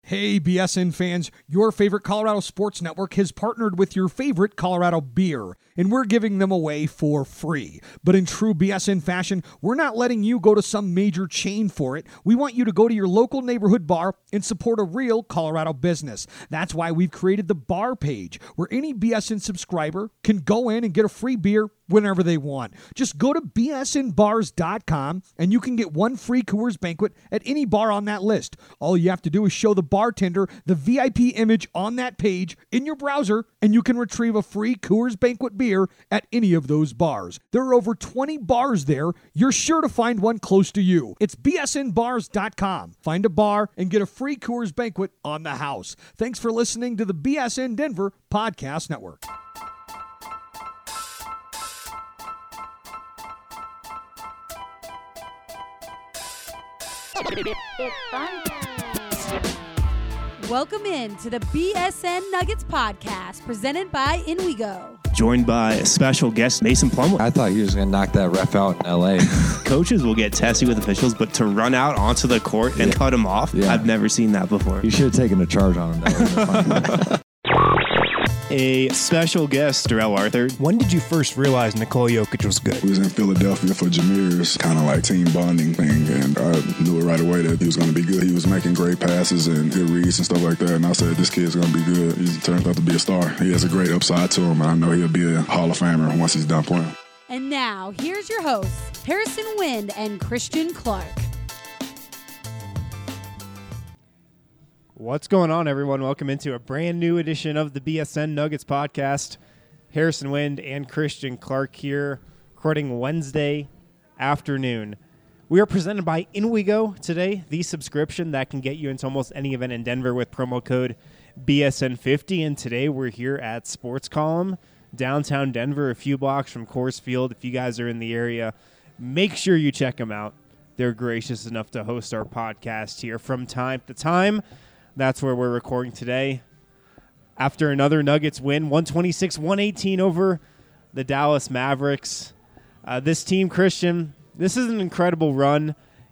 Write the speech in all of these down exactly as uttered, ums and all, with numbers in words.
Hey, B S N fans, your favorite Colorado Sports Network has partnered with your favorite Colorado beer, and we're giving them away for free. But in true B S N fashion, we're not letting you go to some major chain for it. We want you to go to your local neighborhood bar and support a real Colorado business. That's why we've created the bar page, where any B S N subscriber can go in and get a free beer whenever they want. Just go to B S N bars dot com and you can get one free Coors Banquet at any bar on that list. All you have to do is show the bartender the V I P image on that page in your browser, and you can retrieve a free Coors Banquet beer at any of those bars. There are over twenty bars there. You're sure to find one close to you. It's B S N bars dot com. Find a bar and get a free Coors Banquet on the house. Thanks for listening to the B S N Denver Podcast Network. It's fun time. Welcome in to the B S N Nuggets podcast presented by In We Go. Joined by a special guest, Mason Plumlee. I thought he was going to knock that ref out in L A Coaches will get testy with officials, but to run out onto the court and yeah. cut him off, yeah. I've never seen that before. You should have taken a charge on him. That would have been fun. A special guest, Darrell Arthur. When did you first realize Nikola Jokic was good? We was in Philadelphia for Jameer's kind of like team bonding thing, and I knew it right away that he was going to be good. He was making great passes and good reads and stuff like that, and I said, this kid's going to be good. He turned out to be a star. He has a great upside to him, and I know he'll be a Hall of Famer once he's done playing. And now, here's your hosts, Harrison Wind and Christian Clark. What's going on, everyone? Welcome into a brand new edition of the B S N Nuggets podcast. Harrison Wind and Christian Clark here, recording Wednesday afternoon. We are presented by In We Go today, the subscription that can get you into almost any event in Denver with promo code B S N fifty. And today we're here at Sports Column, downtown Denver, a few blocks from Coors Field. If you guys are in the area, make sure you check them out. They're gracious enough to host our podcast here from time to time. That's where we're recording today. After another Nuggets win, one twenty-six one eighteen over the Dallas Mavericks. Uh, this team, Christian, this is an incredible run.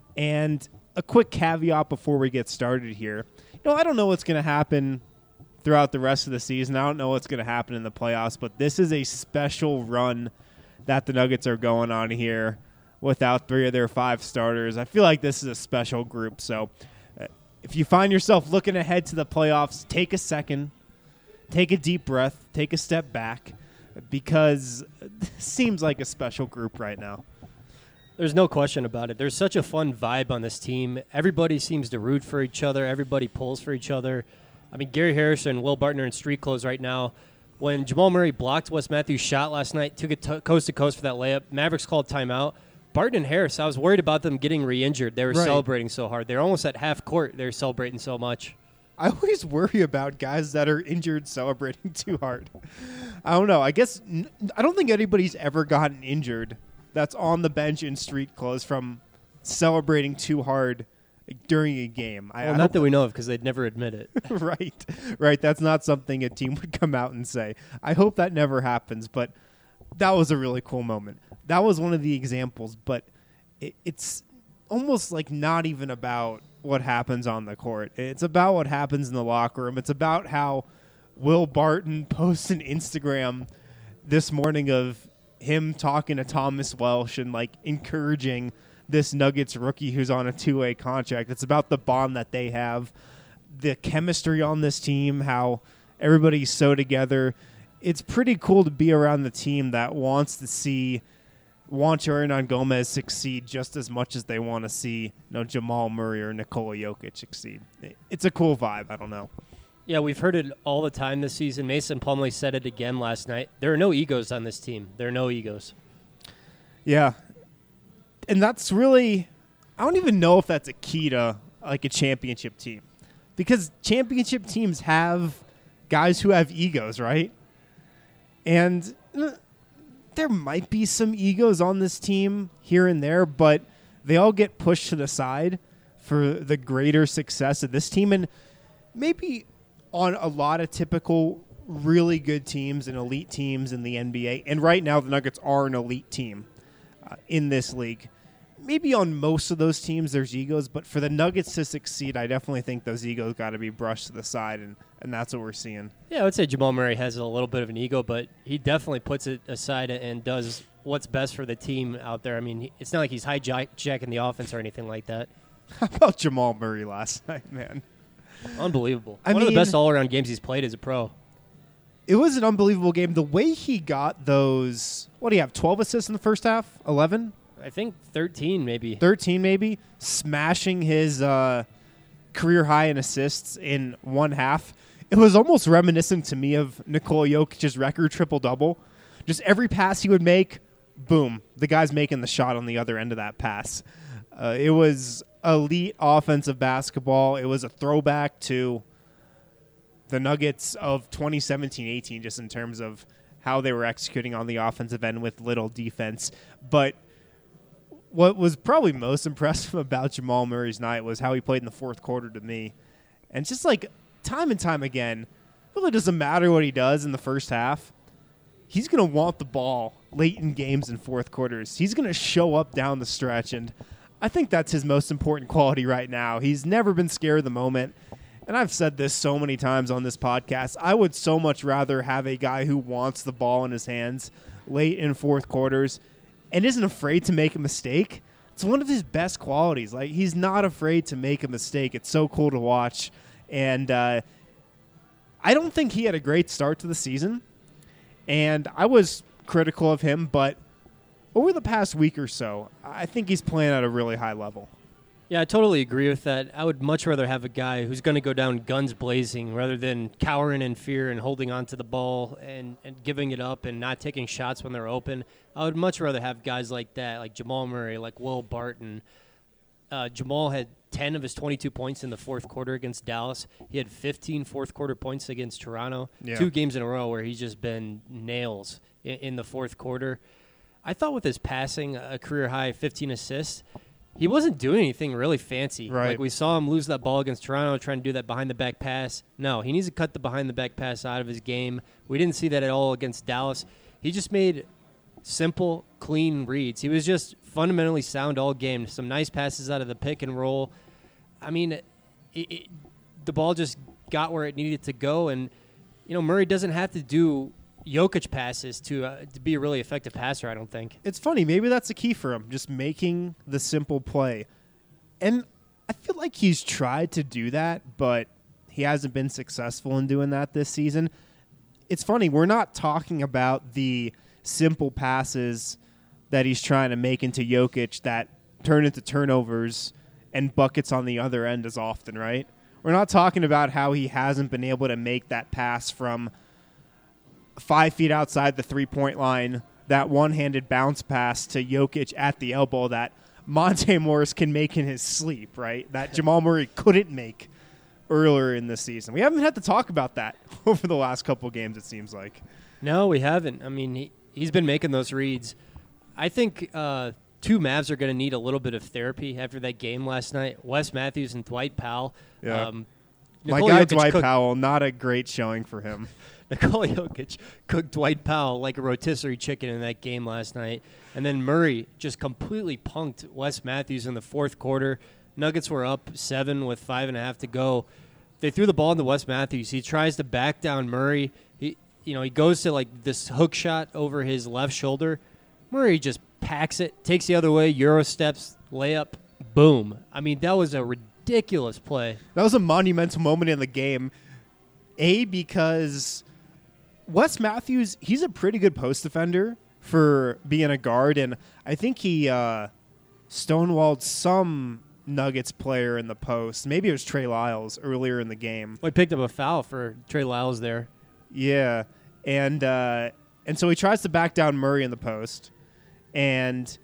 And a quick caveat before we get started here. You know, I don't know what's going to happen throughout the rest of the season. I don't know what's going to happen in the playoffs, but this is a special run that the Nuggets are going on here without three of their five starters. I feel like this is a special group, so if you find yourself looking ahead to the playoffs, take a second, take a deep breath, take a step back, because it seems like a special group right now. There's no question about it. There's such a fun vibe on this team. Everybody seems to root for each other. Everybody pulls for each other. I mean, Gary Harrison and Will Barton are in street clothes right now. When Jamal Murray blocked Wes Matthews' shot last night, took it to coast to coast for that layup, Mavericks called timeout. Barton and Harris, I was worried about them getting re-injured. They were right. celebrating so hard. They're almost at half court. They're celebrating so much. I always worry about guys that are injured celebrating too hard. I don't know. I guess n- I don't think anybody's ever gotten injured that's on the bench in street clothes from celebrating too hard during a game. Well, I, not I that we know of, because they'd never admit it. right, right. That's not something a team would come out and say. I hope that never happens, but that was a really cool moment. That was one of the examples, but it, it's almost like not even about what happens on the court. It's about what happens in the locker room. It's about how Will Barton posts an Instagram this morning of him talking to Thomas Welsh and like encouraging this Nuggets rookie who's on a two-way contract. It's about the bond that they have, the chemistry on this team, how everybody's so together. It's pretty cool to be around the team that wants to see Juancho Hernangomez succeed just as much as they want to see, you know, Jamal Murray or Nikola Jokic succeed. It's a cool vibe. I don't know. Yeah, we've heard it all the time this season. Mason Plumlee said it again last night. There are no egos on this team. There are no egos. Yeah. And that's really, I don't even know if that's a key to like a championship team, because championship teams have guys who have egos, right? And uh, there might be some egos on this team here and there, but they all get pushed to the side for the greater success of this team. And maybe on a lot of typical really good teams and elite teams in the N B A, and right now the Nuggets are an elite team uh, in this league, maybe on most of those teams there's egos, but for the Nuggets to succeed, I definitely think those egos got to be brushed to the side, and, and that's what we're seeing. Yeah, I would say Jamal Murray has a little bit of an ego, but he definitely puts it aside and does what's best for the team out there. I mean, he- it's not like he's hijacking the offense or anything like that. How about Jamal Murray last night, man? Unbelievable. I One of mean- the best all-around games he's played as a pro. It was an unbelievable game. The way he got those, what do you have, twelve assists in the first half? eleven? I think thirteen maybe. thirteen maybe, smashing his uh, career high in assists in one half. It was almost reminiscent to me of Nikola Jokic's record triple-double. Just every pass he would make, boom, the guy's making the shot on the other end of that pass. Uh, it was elite offensive basketball. It was a throwback to the Nuggets of twenty seventeen eighteen, just in terms of how they were executing on the offensive end with little defense. But what was probably most impressive about Jamal Murray's night was how he played in the fourth quarter to me. And just like time and time again, it really doesn't matter what he does in the first half. He's going to want the ball late in games in fourth quarters. He's going to show up down the stretch, and I think that's his most important quality right now. He's never been scared of the moment. And I've said this so many times on this podcast, I would so much rather have a guy who wants the ball in his hands late in fourth quarters and isn't afraid to make a mistake. It's one of his best qualities. Like, he's not afraid to make a mistake. It's so cool to watch. And uh, I don't think he had a great start to the season. And I was critical of him, but over the past week or so, I think he's playing at a really high level. Yeah, I totally agree with that. I would much rather have a guy who's going to go down guns blazing rather than cowering in fear and holding on to the ball and, and giving it up and not taking shots when they're open. I would much rather have guys like that, like Jamal Murray, like Will Barton. Uh, Jamal had ten of his twenty-two points in the fourth quarter against Dallas. He had fifteen fourth-quarter points against Toronto. Yeah. Two games in a row where he's just been nails in, in the fourth quarter. I thought with his passing, a career-high fifteen assists, he wasn't doing anything really fancy. Right. Like, we saw him lose that ball against Toronto, trying to do that behind-the-back pass. No, he needs to cut the behind-the-back pass out of his game. We didn't see that at all against Dallas. He just made simple, clean reads. He was just fundamentally sound all game. Some nice passes out of the pick and roll. I mean, it, it, the ball just got where it needed to go. And, you know, Murray doesn't have to do Jokic passes to uh, to be a really effective passer, I don't think. It's funny. Maybe that's the key for him, just making the simple play. And I feel like he's tried to do that, but he hasn't been successful in doing that this season. It's funny. We're not talking about the simple passes that he's trying to make into Jokic that turn into turnovers and buckets on the other end as often, right? We're not talking about how he hasn't been able to make that pass from five feet outside the three-point line, that one-handed bounce pass to Jokic at the elbow that Monte Morris can make in his sleep, right? That Jamal Murray couldn't make earlier in the season. We haven't had to talk about that over the last couple games, it seems like. No, we haven't. I mean, he, he's been making those reads. I think uh, two Mavs are going to need a little bit of therapy after that game last night. Wes Matthews and Dwight Powell. Yeah. Um, My Nikola guy Jokic Dwight cooked- Powell, not a great showing for him. Nikola Jokic cooked Dwight Powell like a rotisserie chicken in that game last night. And then Murray just completely punked Wes Matthews in the fourth quarter. Nuggets were up seven with five and a half to go. They threw the ball into Wes Matthews. He tries to back down Murray. He, you know, he goes to like this hook shot over his left shoulder. Murray just packs it, takes the other way, Euro steps, layup, boom. I mean, that was a ridiculous play. That was a monumental moment in the game. A, because Wes Matthews, he's a pretty good post defender for being a guard, and I think he uh, stonewalled some Nuggets player in the post. Maybe it was Trey Lyles earlier in the game. Well, he picked up a foul for Trey Lyles there. Yeah, and uh, and so he tries to back down Murray in the post, and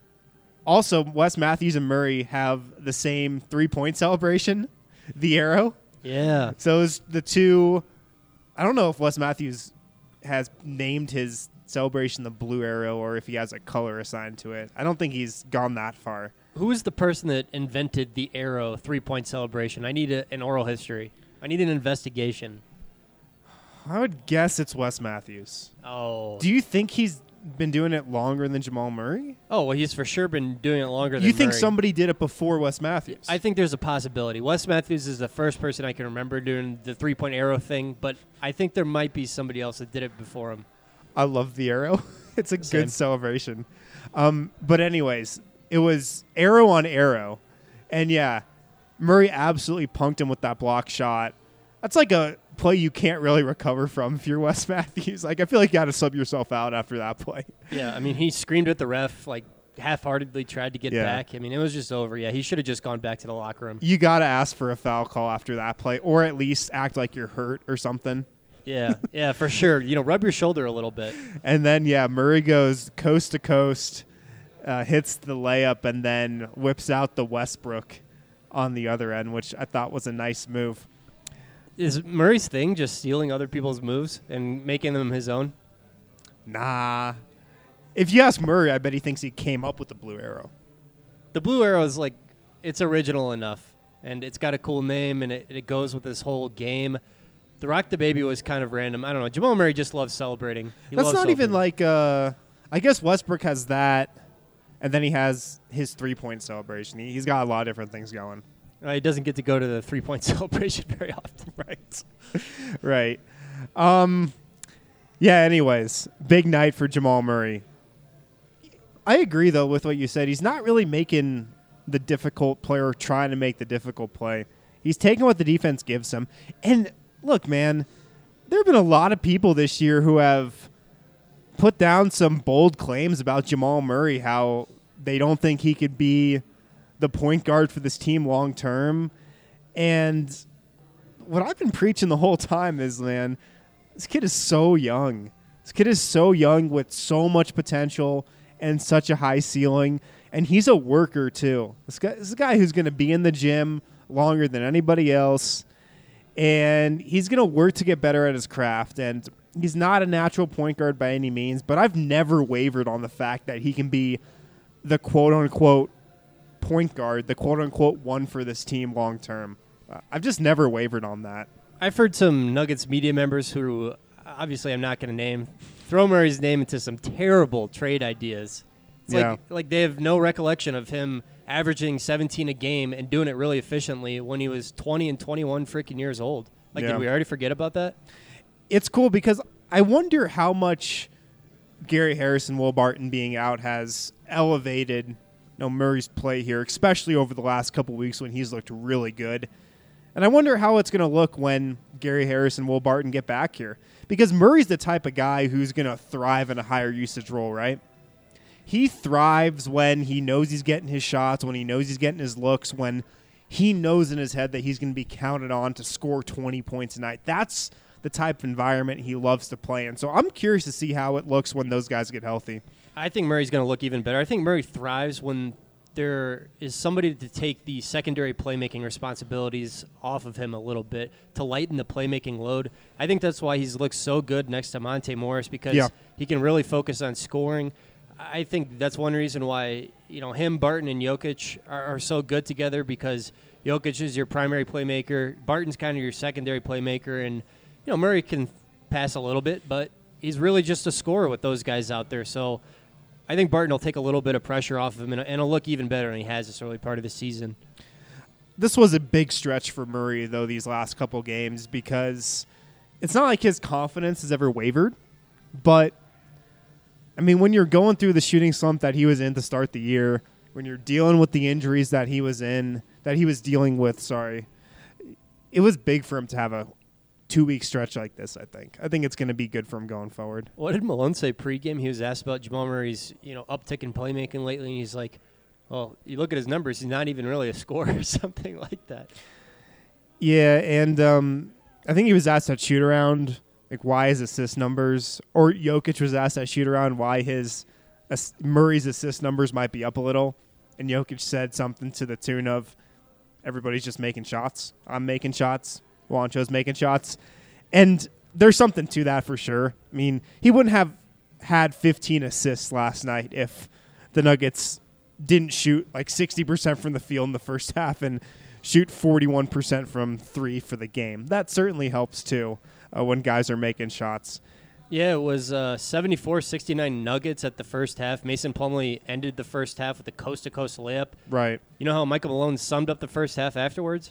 also Wes Matthews and Murray have the same three-point celebration, the arrow. Yeah. So it's the two. I don't know if Wes Matthews has named his celebration the blue arrow or if he has a color assigned to it. I don't think he's gone that far. Who is the person that invented the arrow three-point celebration? I need a, an oral history. I need an investigation. I would guess it's Wes Matthews. Oh. Do you think he's been doing it longer than Jamal Murray? Oh, well, he's for sure been doing it longer than You think Murray. somebody did it before Wes Matthews? I think there's a possibility. Wes Matthews is the first person I can remember doing the three-point arrow thing, but I think there might be somebody else that did it before him. I love the arrow. It's a Same. good celebration. Um, but anyways, it was arrow on arrow. And, yeah, Murray absolutely punked him with that block shot. That's like a play you can't really recover from if you're Wes Matthews. Like, I feel like you got to sub yourself out after that play. Yeah, I mean, he screamed at the ref, like, half-heartedly tried to get Yeah. back. I mean, it was just over. Yeah, he should have just gone back to the locker room. You got to ask for a foul call after that play, or at least act like you're hurt or something. Yeah, yeah, for sure. You know, rub your shoulder a little bit. And then, yeah, Murray goes coast to coast, uh, hits the layup, and then whips out the Westbrook on the other end, which I thought was a nice move. Is Murray's thing just stealing other people's moves and making them his own? Nah. If you ask Murray, I bet he thinks he came up with the blue arrow. The blue arrow is like, it's original enough, and it's got a cool name, and it, it goes with this whole game. The Rock the Baby was kind of random. I don't know. Jamal Murray just loves celebrating. He That's loves not even celebrating. like, uh, I guess Westbrook has that, and then he has his three-point celebration. He, he's got a lot of different things going. Uh, he doesn't get to go to the three-point celebration very often. Right. Right. Um, yeah, anyways, big night for Jamal Murray. I agree, though, with what you said. He's not really making the difficult play or trying to make the difficult play. He's taking what the defense gives him. And, look, man, there have been a lot of people this year who have put down some bold claims about Jamal Murray, how they don't think he could be the point guard for this team long term. And what I've been preaching the whole time is, man, this kid is so young. This kid is so young with so much potential and such a high ceiling. And he's a worker, too. This guy, this is a guy who's going to be in the gym longer than anybody else. And he's going to work to get better at his craft. And he's not a natural point guard by any means, but I've never wavered on the fact that he can be the quote-unquote point guard, the quote-unquote one for this team long term. Uh, I've just never wavered on that. I've heard some Nuggets media members who, obviously I'm not going to name, throw Murray's name into some terrible trade ideas. It's Yeah. like, like they have no recollection of him averaging seventeen a game and doing it really efficiently when he was twenty and twenty-one freaking years old. Like, Yeah. did we already forget about that? It's cool because I wonder how much Gary Harris and Will Barton being out has elevated, you know, Murray's play here, especially over the last couple weeks when he's looked really good. And I wonder how it's going to look when Gary Harris and Will Barton get back here. Because Murray's the type of guy who's going to thrive in a higher usage role, right? He thrives when he knows he's getting his shots, when he knows he's getting his looks, when he knows in his head that he's going to be counted on to score twenty points a night. That's the type of environment he loves to play in. So I'm curious to see how it looks when those guys get healthy. I think Murray's going to look even better. I think Murray thrives when there is somebody to take the secondary playmaking responsibilities off of him a little bit to lighten the playmaking load. I think that's why he's looked so good next to Monte Morris, because Yeah. he can really focus on scoring. I think that's one reason why, you know, him, Barton, and Jokic are, are so good together, because Jokic is your primary playmaker, Barton's kind of your secondary playmaker, and, you know, Murray can pass a little bit, but he's really just a scorer with those guys out there. So I think Barton will take a little bit of pressure off of him, and, and he'll look even better than he has this early part of the season. This was a big stretch for Murray, though, these last couple games, because it's not like his confidence has ever wavered. But, I mean, when you're going through the shooting slump that he was in to start the year, when you're dealing with the injuries that he was in, that he was dealing with, sorry, it was big for him to have a two-week stretch like this, I think. I think it's going to be good for him going forward. What did Malone say pregame? He was asked about Jamal Murray's, you know, uptick in playmaking lately, and he's like, well, you look at his numbers, he's not even really a scorer or something like that. Yeah, and um, I think he was asked at shoot-around, like, why his assist numbers, or Jokic was asked at shoot-around why his ass- Murray's assist numbers might be up a little, and Jokic said something to the tune of, everybody's just making shots. I'm making shots. Juancho's making shots. And there's something to that for sure. I mean, he wouldn't have had fifteen assists last night if the Nuggets didn't shoot like sixty percent from the field in the first half and shoot forty-one percent from three for the game. That certainly helps too uh, when guys are making shots. Yeah, it was uh, seventy-four sixty-nine Nuggets at the first half. Mason Plumlee ended the first half with a coast-to-coast layup. Right. You know how Michael Malone summed up the first half afterwards?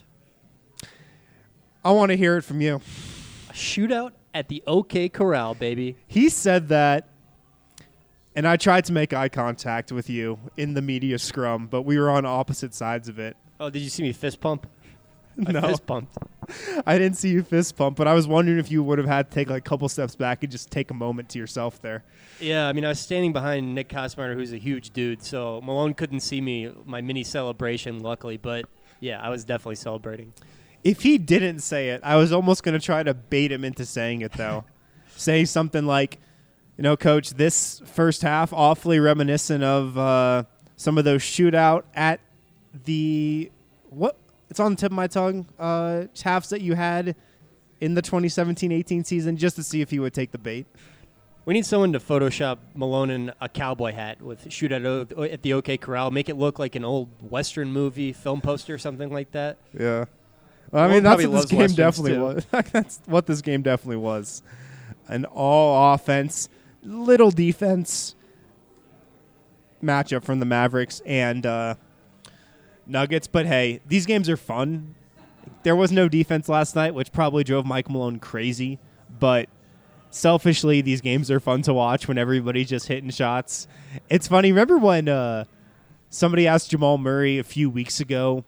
I want to hear it from you. A shootout at the OK Corral, baby. He said that, and I tried to make eye contact with you in the media scrum, but we were on opposite sides of it. Oh, did you see me fist pump? I No. fist pumped. I didn't see you fist pump, but I was wondering if you would have had to take like a couple steps back and just take a moment to yourself there. Yeah, I mean, I was standing behind Nick Kosmeyer, who's a huge dude, so Malone couldn't see me, my mini celebration, luckily. But, yeah, I was definitely celebrating. If he didn't say it, I was almost going to try to bait him into saying it, though. Say something like, you know, Coach, this first half awfully reminiscent of uh, some of those shootout at the – what? It's on the tip of my tongue. Uh, halves that you had in the twenty seventeen eighteen season, just to see if he would take the bait. We need someone to Photoshop Malone in a cowboy hat with shoot at, o- at the OK Corral, make it look like an old Western movie film poster or something like that. Yeah. Well, I Malone mean, that's probably what this loves game Westerns, definitely too. was. That's what this game definitely was. An all offense, little defense matchup from the Mavericks and uh, Nuggets. But hey, these games are fun. There was no defense last night, which probably drove Mike Malone crazy. But selfishly, these games are fun to watch when everybody's just hitting shots. It's funny. Remember when uh, somebody asked Jamal Murray a few weeks ago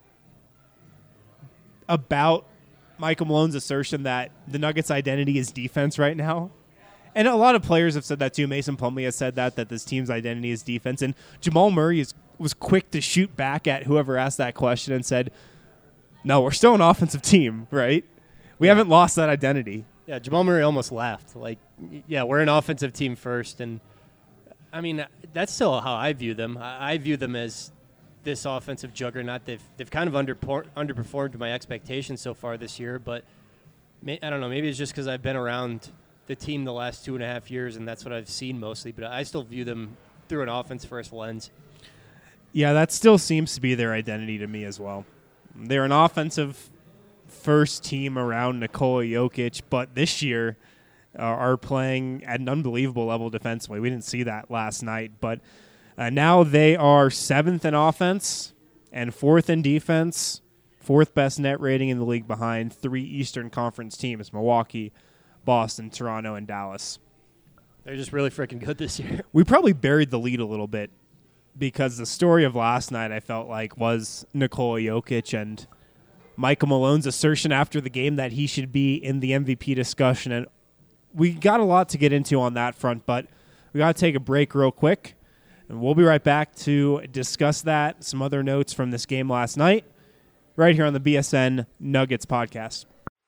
about Michael Malone's assertion that the Nuggets' identity is defense right now? And a lot of players have said that too. Mason Plumlee has said that, that this team's identity is defense. And Jamal Murray is, was quick to shoot back at whoever asked that question and said, no, we're still an offensive team, right? We Yeah. haven't lost that identity. Yeah, Jamal Murray almost laughed. Like, y- yeah, we're an offensive team first. And, I mean, that's still how I view them. I, I view them as this offensive juggernaut. They've, they've kind of underpor- underperformed my expectations so far this year. But, may- I don't know, maybe it's just because I've been around the team the last two and a half years, and that's what I've seen mostly. But I still view them through an offense-first lens. Yeah, that still seems to be their identity to me as well. They're an offensive first team around Nikola Jokic, but this year uh, are playing at an unbelievable level defensively. We didn't see that last night, but uh, now they are seventh in offense and fourth in defense, fourth best net rating in the league behind three Eastern Conference teams, Milwaukee, Boston, Toronto, and Dallas. They're just really freaking good this year. We probably buried the lead a little bit because the story of last night, I felt like, was Nikola Jokic and Michael Malone's assertion after the game that he should be in the M V P discussion. And we got a lot to get into on that front, but we got to take a break real quick. And we'll be right back to discuss that, some other notes from this game last night, right here on the B S N Nuggets podcast.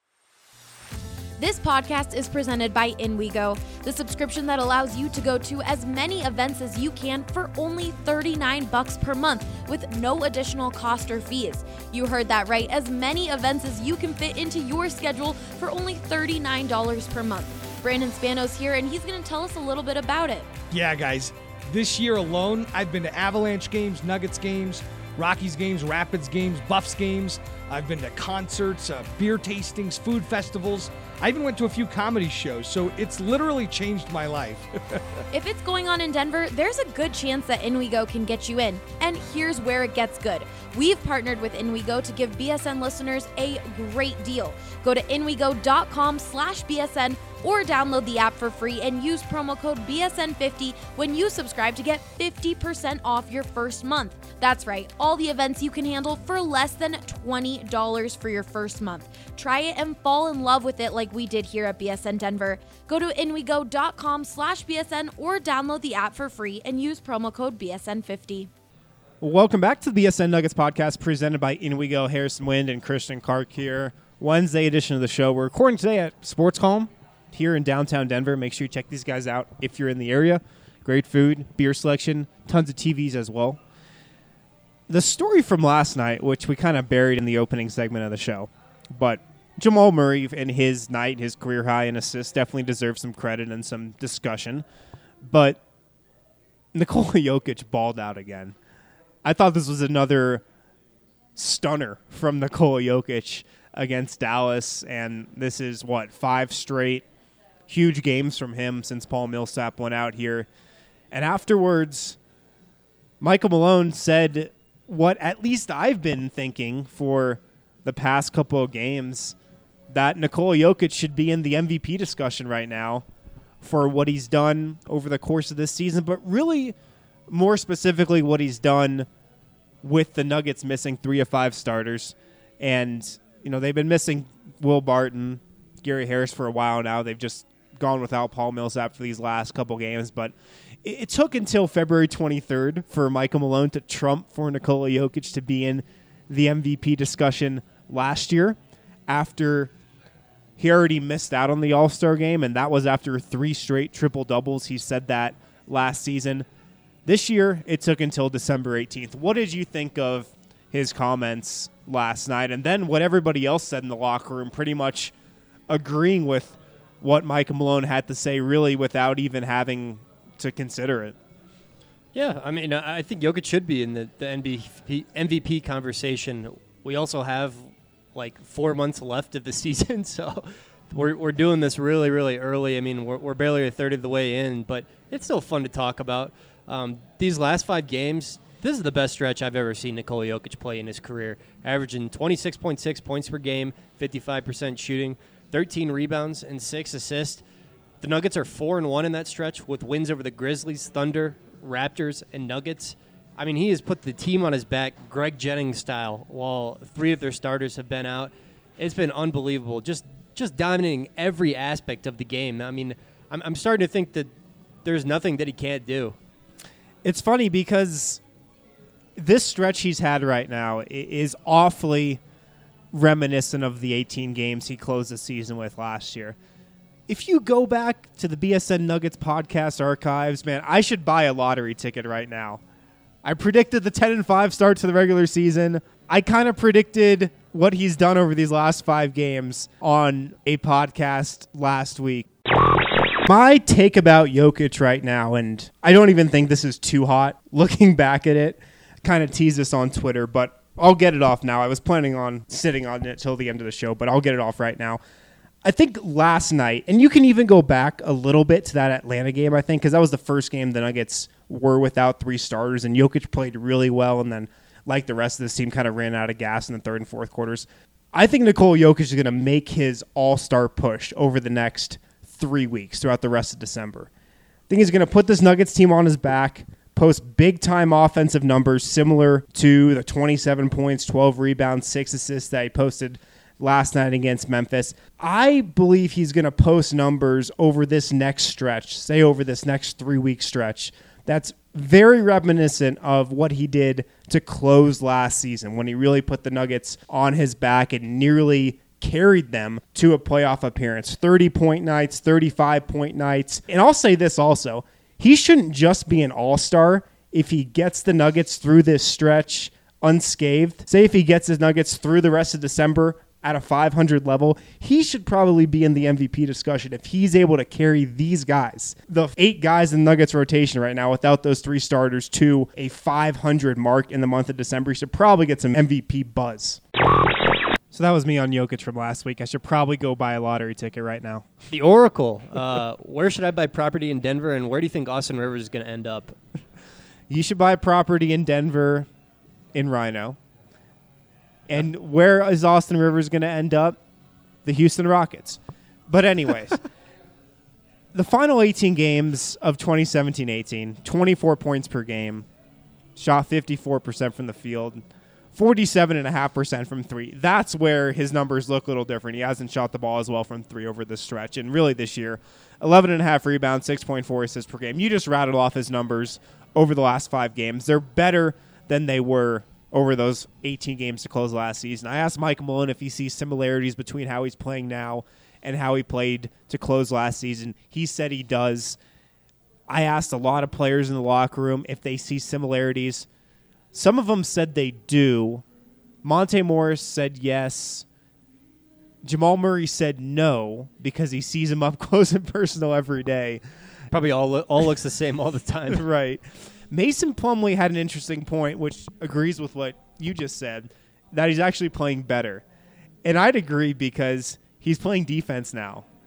This podcast is presented by InWeGo, the subscription that allows you to go to as many events as you can for only thirty-nine bucks per month with no additional cost or fees. You heard that right, as many events as you can fit into your schedule for only thirty-nine dollars per month. Brandon Spanos here, and he's going to tell us a little bit about it. Yeah, guys. This year alone, I've been to Avalanche games, Nuggets games, Rockies games, Rapids games, Buffs games. I've been to concerts, uh, beer tastings, food festivals. I even went to a few comedy shows, so it's literally changed my life. If it's going on in Denver, there's a good chance that InWeGo can get you in. And here's where it gets good. We've partnered with InWeGo to give B S N listeners a great deal. Go to InWeGo.com slash BSN or download the app for free and use promo code B S N fifty when you subscribe to get fifty percent off your first month. That's right, all the events you can handle for less than twenty dollars for your first month. Try it and fall in love with it like we did here at B S N Denver. Go to InWeGo.com slash BSN or download the app for free and use promo code B S N fifty. Welcome back to the B S N Nuggets podcast presented by InWeGo. Harrison Wind and Christian Clark here. Wednesday edition of the show. We're recording today at Sports Calm here in downtown Denver. Make sure you check these guys out if you're in the area. Great food, beer selection, tons of T Vs as well. The story from last night, which we kind of buried in the opening segment of the show, but Jamal Murray and his night, his career high in assists, definitely deserves some credit and some discussion. But Nikola Jokic balled out again. I thought this was another stunner from Nikola Jokic against Dallas, and this is, what, five straight huge games from him since Paul Millsap went out here. And afterwards, Michael Malone said what at least I've been thinking for the past couple of games, that Nikola Jokic should be in the M V P discussion right now for what he's done over the course of this season, but really more specifically what he's done with the Nuggets missing three of five starters. And, you know, they've been missing Will Barton, Gary Harris for a while now. They've just gone without Paul Millsap for these last couple games. But it, it took until February twenty-third for Michael Malone to trump for Nikola Jokic to be in the M V P discussion last year after he already missed out on the All-Star game, and that was after three straight triple-doubles. He said that last season. This year, it took until December eighteenth. What did you think of his comments last night? And then what everybody else said in the locker room, pretty much agreeing with what Michael Malone had to say, really without even having to consider it. Yeah, I mean, I think Jokic should be in the, the M V P, M V P conversation. We also have like four months left of the season, so we're we're doing this really, really early. I mean, we're, we're barely a third of the way in, but it's still fun to talk about. Um, these last five games, this is the best stretch I've ever seen Nikola Jokic play in his career, averaging twenty-six point six points per game, fifty-five percent shooting, thirteen rebounds, and six assists. The Nuggets are four and one in that stretch with wins over the Grizzlies, Thunder, Raptors, and Nuggets. I mean, he has put the team on his back, Greg Jennings style, while three of their starters have been out. It's been unbelievable, just just dominating every aspect of the game. I mean, I'm, I'm starting to think that there's nothing that he can't do. It's funny because this stretch he's had right now is awfully reminiscent of the eighteen games he closed the season with last year. If you go back to the B S N Nuggets podcast archives, man, I should buy a lottery ticket right now. I predicted the ten and five start to the regular season. I kind of predicted what he's done over these last five games on a podcast last week. My take about Jokic right now, and I don't even think this is too hot, looking back at it, kind of tease this on Twitter, but I'll get it off now. I was planning on sitting on it till the end of the show, but I'll get it off right now. I think last night, and you can even go back a little bit to that Atlanta game, I think, because that was the first game the Nuggets were without three starters, and Jokic played really well, and then, like the rest of this team, kind of ran out of gas in the third and fourth quarters. I think Nikola Jokic is going to make his all-star push over the next three weeks throughout the rest of December. I think he's going to put this Nuggets team on his back, post big-time offensive numbers similar to the twenty-seven points, twelve rebounds, six assists that he posted last night against Memphis. I believe he's going to post numbers over this next stretch, say over this next three-week stretch, that's very reminiscent of what he did to close last season when he really put the Nuggets on his back and nearly carried them to a playoff appearance. thirty-point nights, thirty-five-point nights. And I'll say this also. He shouldn't just be an all-star if he gets the Nuggets through this stretch unscathed. Say if he gets his Nuggets through the rest of December at a five hundred level, he should probably be in the M V P discussion if he's able to carry these guys, the eight guys in the Nuggets rotation right now without those three starters, to a five hundred mark in the month of December. He should probably get some M V P buzz. So that was me on Jokic from last week. I should probably go buy a lottery ticket right now. The Oracle. Uh, where should I buy property in Denver, and where do you think Austin Rivers is going to end up? You should buy property in Denver in Rhino. And where is Austin Rivers going to end up? The Houston Rockets. But anyways, the final eighteen games of twenty seventeen eighteen, twenty-four points per game, shot fifty-four percent from the field, forty-seven point five percent from three. That's where his numbers look a little different. He hasn't shot the ball as well from three over this stretch. And really this year, eleven point five rebounds, six point four assists per game. You just rattled off his numbers over the last five games. They're better than they were over those eighteen games to close last season. I asked Mike Malone if he sees similarities between how he's playing now and how he played to close last season. He said he does. I asked a lot of players in the locker room if they see similarities. Some of them said they do. Monte Morris said yes. Jamal Murray said no because he sees him up close and personal every day. Probably all lo- all looks the same all the time. Right. Mason Plumlee had an interesting point, which agrees with what you just said, that he's actually playing better. And I'd agree because he's playing defense now.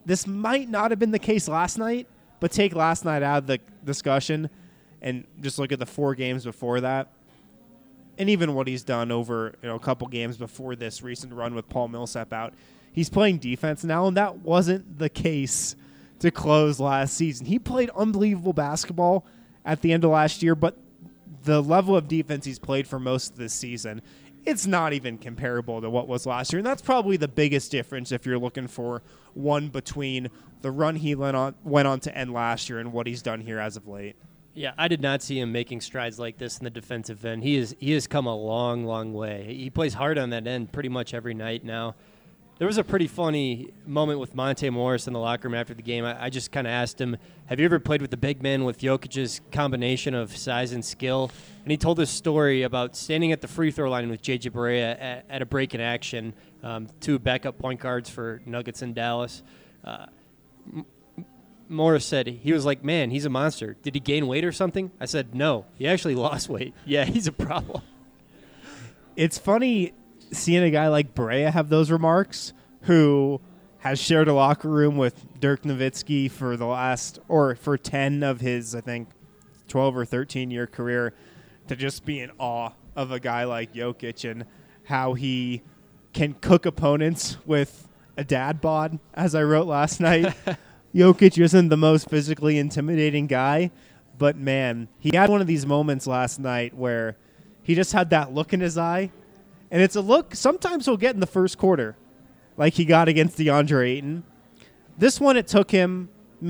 this might not have been the case last night, but take last night out of the discussion and just look at the four games before that. And even what he's done over, you know, a couple games before this recent run with Paul Millsap out. He's playing defense now, and that wasn't the case to close last season. He played unbelievable basketball at the end of last year, but the level of defense he's played for most of this season, it's not even comparable to what was last year. And that's probably the biggest difference if you're looking for one between the run he went on, went on to end last year and what he's done here as of late. Yeah, I did not see him making strides like this in the defensive end. He is he has come a long, long way. He plays hard on that end pretty much every night now. There was a pretty funny moment with Monte Morris in the locker room after the game. I, I just kind of asked him, have you ever played with the big man with Jokic's combination of size and skill? And he told this story about standing at the free throw line with J J Barea at, at a break in action, um, two backup point guards for Nuggets in Dallas. Uh, M- Morris said, he was like, man, he's a monster. Did he gain weight or something? I said, no, he actually lost weight. Yeah, he's a problem. It's funny seeing a guy like Barea have those remarks, who has shared a locker room with Dirk Nowitzki for the last, or for ten of his, I think, twelve or thirteen year career, to just be in awe of a guy like Jokic and how he can cook opponents with a dad bod, as I wrote last night. Jokic isn't the most physically intimidating guy, but man, he had one of these moments last night where he just had that look in his eye. And it's a look sometimes he'll get in the first quarter, like he got against DeAndre Ayton. This one, it took him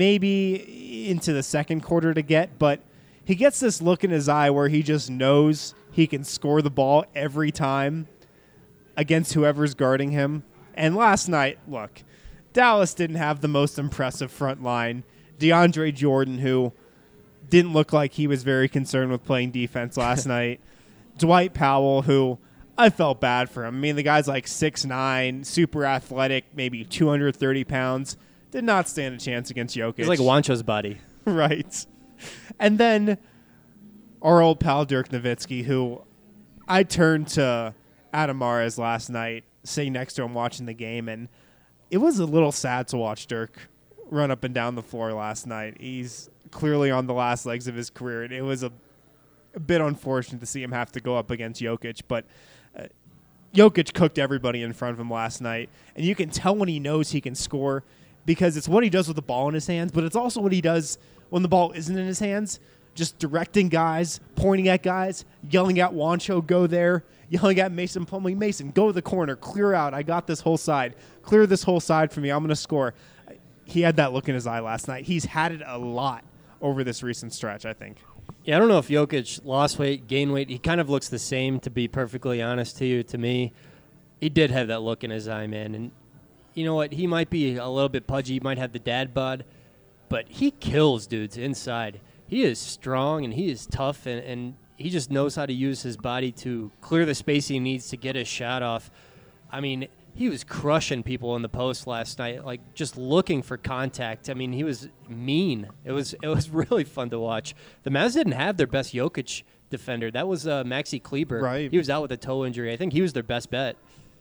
maybe into the second quarter to get, but he gets this look in his eye where he just knows he can score the ball every time against whoever's guarding him. And last night, look, Dallas didn't have the most impressive front line. DeAndre Jordan, who didn't look like he was very concerned with playing defense last night. Dwight Powell, who I felt bad for him. I mean, the guy's like six nine, super athletic, maybe two hundred thirty pounds. Did not stand a chance against Jokic. He's like Wancho's body. Right. And then our old pal Dirk Nowitzki, who I turned to Adam Mares last night, sitting next to him watching the game, and it was a little sad to watch Dirk run up and down the floor last night. He's clearly on the last legs of his career, and it was a, a bit unfortunate to see him have to go up against Jokic, but uh, Jokic cooked everybody in front of him last night, and you can tell when he knows he can score because it's what he does with the ball in his hands, but it's also what he does when the ball isn't in his hands, just directing guys, pointing at guys, yelling at Wancho, go there, yelling at Mason Plumlee, Mason, go to the corner, clear out, I got this whole side, clear this whole side for me, I'm going to score. He had that look in his eye last night. He's had it a lot over this recent stretch, I think. Yeah, I don't know if Jokic lost weight, gained weight. He kind of looks the same, to be perfectly honest to you, to me. He did have that look in his eye, man. And you know what? He might be a little bit pudgy. He might have the dad bod. But he kills dudes inside. He is strong, and he is tough, and, and he just knows how to use his body to clear the space he needs to get his shot off. I mean, he was crushing people in the post last night, like just looking for contact. I mean, he was mean. It was it was really fun to watch. The Mavs didn't have their best Jokic defender. That was uh, Maxi Kleber. Right. He was out with a toe injury. I think he was their best bet.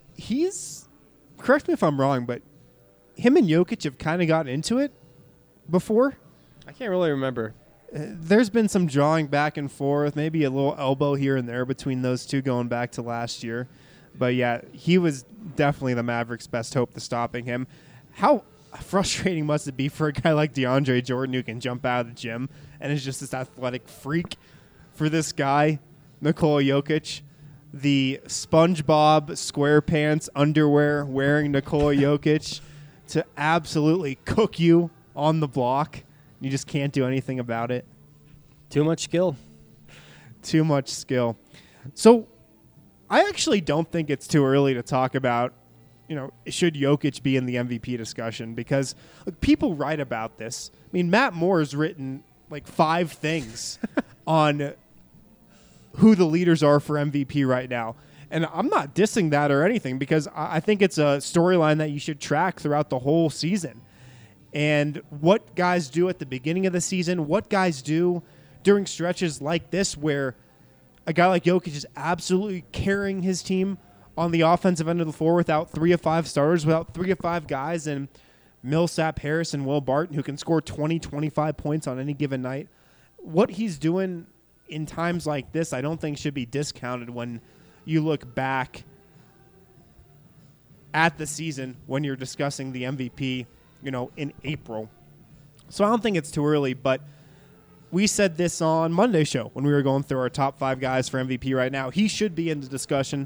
He's, correct me if I'm wrong, but him and Jokic have kind of gotten into it before. I can't really remember. Uh, there's been some drawing back and forth, maybe a little elbow here and there between those two going back to last year. But, yeah, he was definitely the Mavericks' best hope to stopping him. How frustrating must it be for a guy like DeAndre Jordan who can jump out of the gym and is just this athletic freak, for this guy, Nikola Jokic, the SpongeBob SquarePants underwear wearing Nikola Jokic, to absolutely cook you on the block. You just can't do anything about it. Too much skill. Too much skill. So I actually don't think it's too early to talk about, you know, should Jokic be in the M V P discussion, because look, people write about this. I mean, Matt Moore's written like five things on who the leaders are for M V P right now. And I'm not dissing that or anything, because I think it's a storyline that you should track throughout the whole season. And what guys do at the beginning of the season, what guys do during stretches like this where a guy like Jokic is absolutely carrying his team on the offensive end of the floor without three or five starters, without three or five guys. And Millsap, Harris, and Will Barton, who can score twenty, twenty-five points on any given night. What he's doing in times like this, I don't think should be discounted when you look back at the season when you're discussing the M V P, you know, in April. So I don't think it's too early, but we said this on Monday's show when we were going through our top five guys for M V P right now. He should be in the discussion.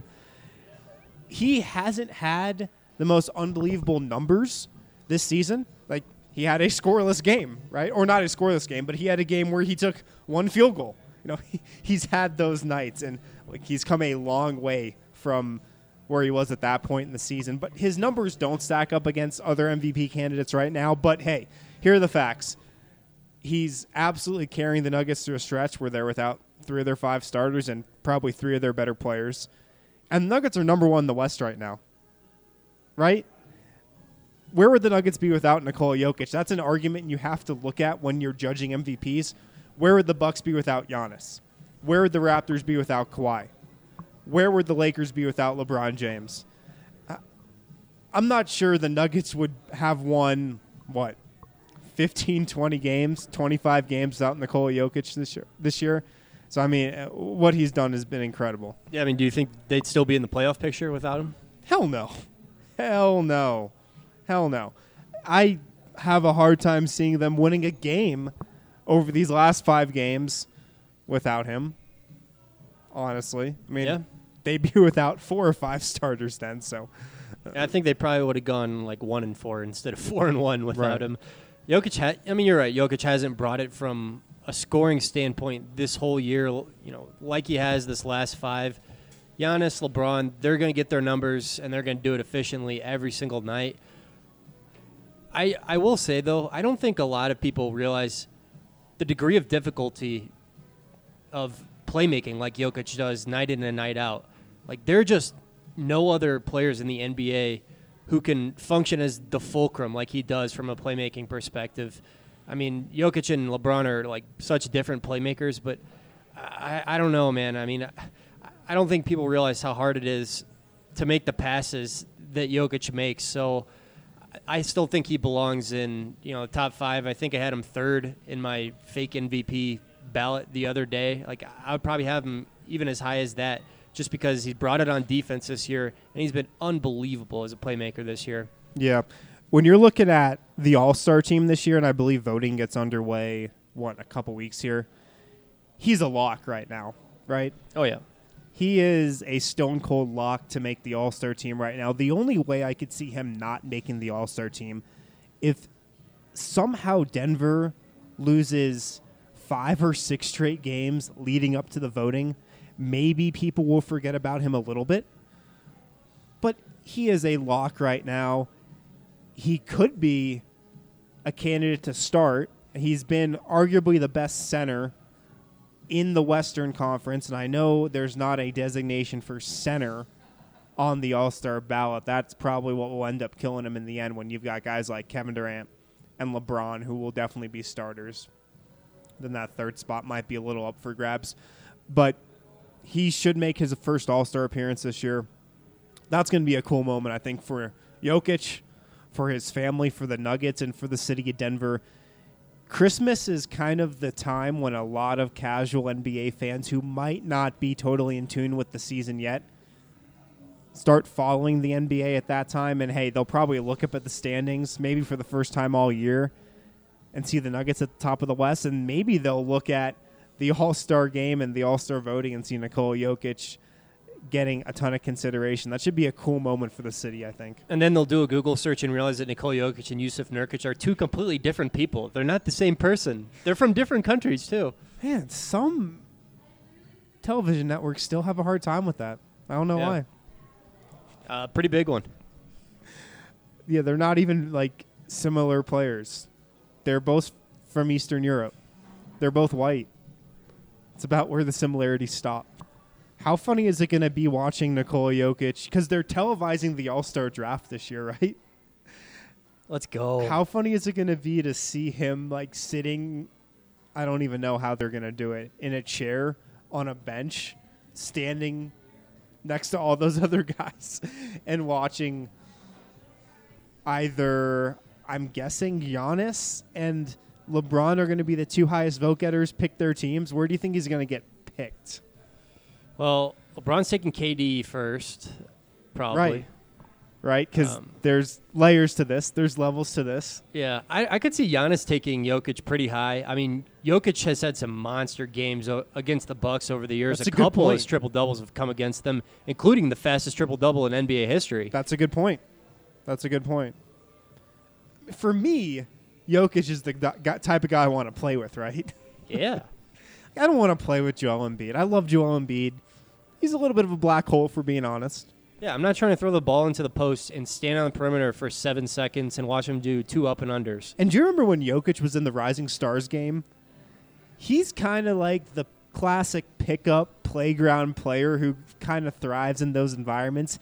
He hasn't had the most unbelievable numbers this season. Like, he had a scoreless game, right? Or not a scoreless game, but he had a game where he took one field goal. You know, he, he's had those nights, and like he's come a long way from where he was at that point in the season. But his numbers don't stack up against other M V P candidates right now. But, hey, here are the facts. He's absolutely carrying the Nuggets through a stretch where they're without three of their five starters and probably three of their better players. And the Nuggets are number one in the West right now, right? Where would the Nuggets be without Nikola Jokic? That's an argument you have to look at when you're judging M V Ps. Where would the Bucks be without Giannis? Where would the Raptors be without Kawhi? Where would the Lakers be without LeBron James? I'm not sure the Nuggets would have won, what, fifteen, twenty games, twenty-five games without Nikola Jokic this year. This year. So, I mean, what he's done has been incredible. Yeah, I mean, do you think they'd still be in the playoff picture without him? Hell no. Hell no. Hell no. I have a hard time seeing them winning a game over these last five games without him, honestly. I mean, yeah. They'd be without four or five starters then. So, I think they probably would have gone like one and four instead of four and one without Right. him. Jokic, ha- I mean, you're right. Jokic hasn't brought it from a scoring standpoint this whole year, you know, like he has this last five. Giannis, LeBron, they're going to get their numbers, and they're going to do it efficiently every single night. I I will say, though, I don't think a lot of people realize the degree of difficulty of playmaking like Jokic does night in and night out. Like, there are just no other players in the N B A who can function as the fulcrum like he does from a playmaking perspective. I mean, Jokic and LeBron are, like, such different playmakers, but I, I don't know, man. I mean, I, I don't think people realize how hard it is to make the passes that Jokic makes. So I still think he belongs in, you know, the top five. I think I had him third in my fake M V P ballot the other day. Like, I would probably have him even as high as that just because he's brought it on defense this year, and he's been unbelievable as a playmaker this year. Yeah. When you're looking at the All-Star team this year, and I believe voting gets underway, what, in a couple weeks here, he's a lock right now, right? Oh, yeah. He is a stone-cold lock to make the All-Star team right now. The only way I could see him not making the All-Star team, if somehow Denver loses five or six straight games leading up to the voting, maybe people will forget about him a little bit. But he is a lock right now. He could be a candidate to start. He's been arguably the best center in the Western Conference, and I know there's not a designation for center on the All-Star ballot. That's probably what will end up killing him in the end when you've got guys like Kevin Durant and LeBron who will definitely be starters. Then that third spot might be a little up for grabs. But he should make his first All-Star appearance this year. That's going to be a cool moment, I think, for Jokic, for his family, for the Nuggets, and for the city of Denver. Christmas is kind of the time when a lot of casual N B A fans who might not be totally in tune with the season yet start following the N B A at that time. And, hey, they'll probably look up at the standings maybe for the first time all year and see the Nuggets at the top of the West. And maybe they'll look at the All-Star game and the All-Star voting and see Nikola Jokic getting a ton of consideration. That should be a cool moment for the city, I think. And then they'll do a Google search and realize that Nikola Jokic and Yusuf Nurkic are two completely different people. They're not the same person. They're from different countries, too. Man, some television networks still have a hard time with that. I don't know Yeah. why. Uh, pretty big one. Yeah, they're not even, like, similar players. They're both from Eastern Europe. They're both white. It's about where the similarities stop. How funny is it going to be watching Nikola Jokic? Because they're televising the All-Star draft this year, right? Let's go. How funny is it going to be to see him, like, sitting, I don't even know how they're going to do it, in a chair on a bench, standing next to all those other guys and watching either, I'm guessing Giannis and LeBron are going to be the two highest vote getters. Pick their teams. Where do you think he's going to get picked? Well, LeBron's taking K D first, probably. Right. Right, because Um, there's layers to this. There's levels to this. Yeah, I, I could see Giannis taking Jokic pretty high. I mean, Jokic has had some monster games o- against the Bucks over the years. That's a a good couple of point. his triple doubles have come against them, including the fastest triple double in N B A history. That's a good point. That's a good point. For me, Jokic is the gu- type of guy I want to play with, right? Yeah. I don't want to play with Joel Embiid. I love Joel Embiid. He's a little bit of a black hole, for being honest. Yeah, I'm not trying to throw the ball into the post and stand on the perimeter for seven seconds and watch him do two up and unders. And do you remember when Jokic was in the Rising Stars game? He's kind of like the classic pickup playground player who kind of thrives in those environments.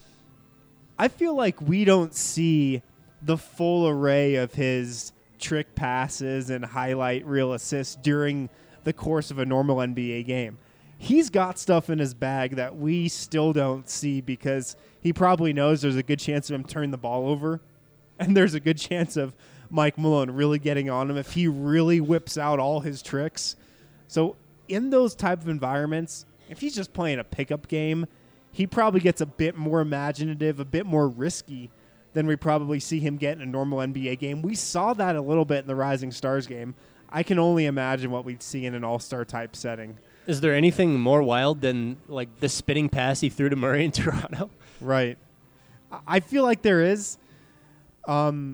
I feel like we don't see the full array of his trick passes and highlight reel assists during the course of a normal N B A game. He's got stuff in his bag that we still don't see because he probably knows there's a good chance of him turning the ball over, and there's a good chance of Mike Malone really getting on him if he really whips out all his tricks. So in those type of environments, if he's just playing a pickup game, he probably gets a bit more imaginative, a bit more risky than we probably see him get in a normal N B A game. We saw that a little bit in the Rising Stars game. I can only imagine what we'd see in an all-star type setting. Is there anything more wild than like the spinning pass he threw to Murray in Toronto? Right. I feel like there is. Um,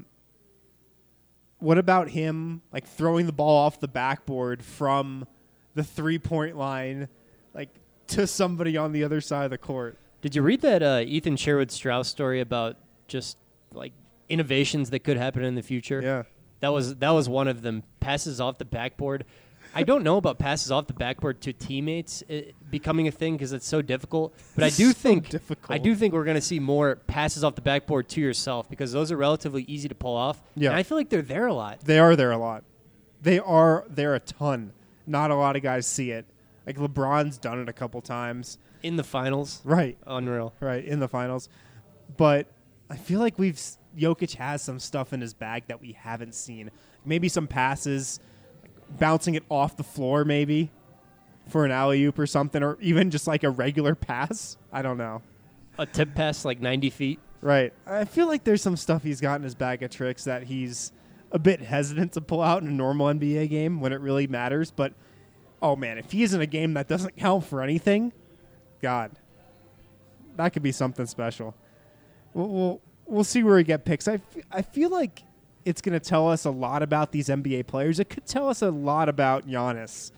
what about him like throwing the ball off the backboard from the three-point line, like to somebody on the other side of the court? Did you read that uh, Ethan Sherwood Strauss story about just like innovations that could happen in the future? Yeah. That was that was one of them. Passes off the backboard. I don't know about passes off the backboard to teammates uh, becoming a thing because it's so difficult. But I do So think difficult. I do think we're going to see more passes off the backboard to yourself because those are relatively easy to pull off. Yeah. And I feel like they're there a lot. They are there a lot. They are there a ton. Not a lot of guys see it. Like LeBron's done it a couple times. In the finals. Right. Unreal. Right, in the finals. But I feel like we've Jokic has some stuff in his bag that we haven't seen. Maybe some passes, like bouncing it off the floor maybe for an alley-oop or something, or even just like a regular pass. I don't know. A tip pass like ninety feet. Right. I feel like there's some stuff he's got in his bag of tricks that he's a bit hesitant to pull out in a normal N B A game when it really matters. But, oh, man, if he's in a game that doesn't count for anything, God, that could be something special. We'll, we'll, we'll see where we get picks. I, f- I feel like it's going to tell us a lot about these N B A players. It could tell us a lot about Giannis,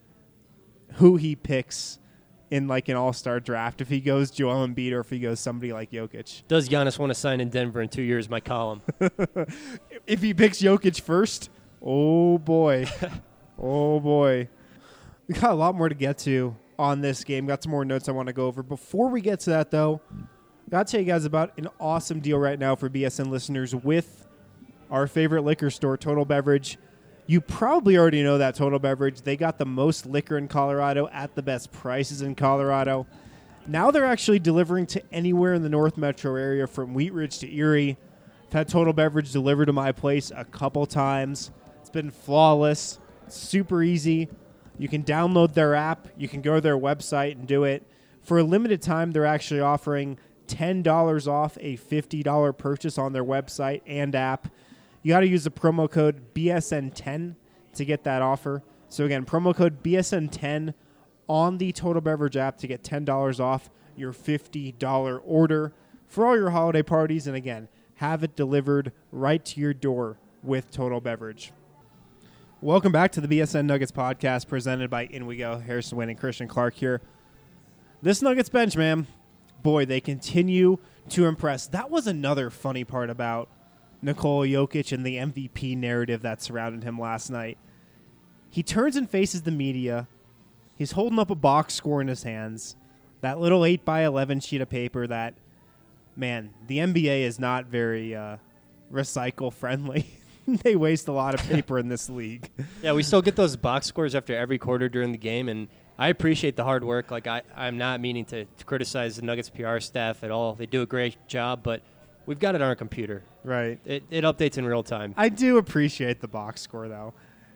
who he picks in like an all-star draft, if he goes Joel Embiid or if he goes somebody like Jokic. Does Giannis want to sign in Denver in two years? My column. If he picks Jokic first, oh boy. oh boy. We got a lot more to get to on this game. Got some more notes I want to go over. Before we get to that, though, got to tell you guys about an awesome deal right now for B S N listeners with our favorite liquor store, Total Beverage. You probably already know that Total Beverage. They got the most liquor in Colorado at the best prices in Colorado. Now they're actually delivering to anywhere in the North Metro area from Wheat Ridge to Erie. I've had Total Beverage delivered to my place a couple times. It's been flawless, super easy. You can download their app. You can go to their website and do it. For a limited time, they're actually offering ten dollars off a fifty dollars purchase on their website and app. You got to use the promo code B S N ten to get that offer. So again, promo code B S N ten on the Total Beverage app to get ten dollars off your fifty dollars order for all your holiday parties. And again, have it delivered right to your door with Total Beverage. Welcome back to the B S N Nuggets podcast presented by In We Go. Harrison Wynn and Christian Clark here. This Nuggets bench, man, boy, they continue to impress. That was another funny part about Nikola Jokic and the M V P narrative that surrounded him last night. He turns and faces the media. He's holding up a box score in his hands. That little eight by eleven sheet of paper that, man, the N B A is not very uh, recycle-friendly. They waste a lot of paper in this league. Yeah, we still get those box scores after every quarter during the game, and I appreciate the hard work. Like I, I'm not meaning to, to criticize the Nuggets P R staff at all. They do a great job, but We've got it on our computer. Right. It, it updates in real time. I do appreciate the box score, though.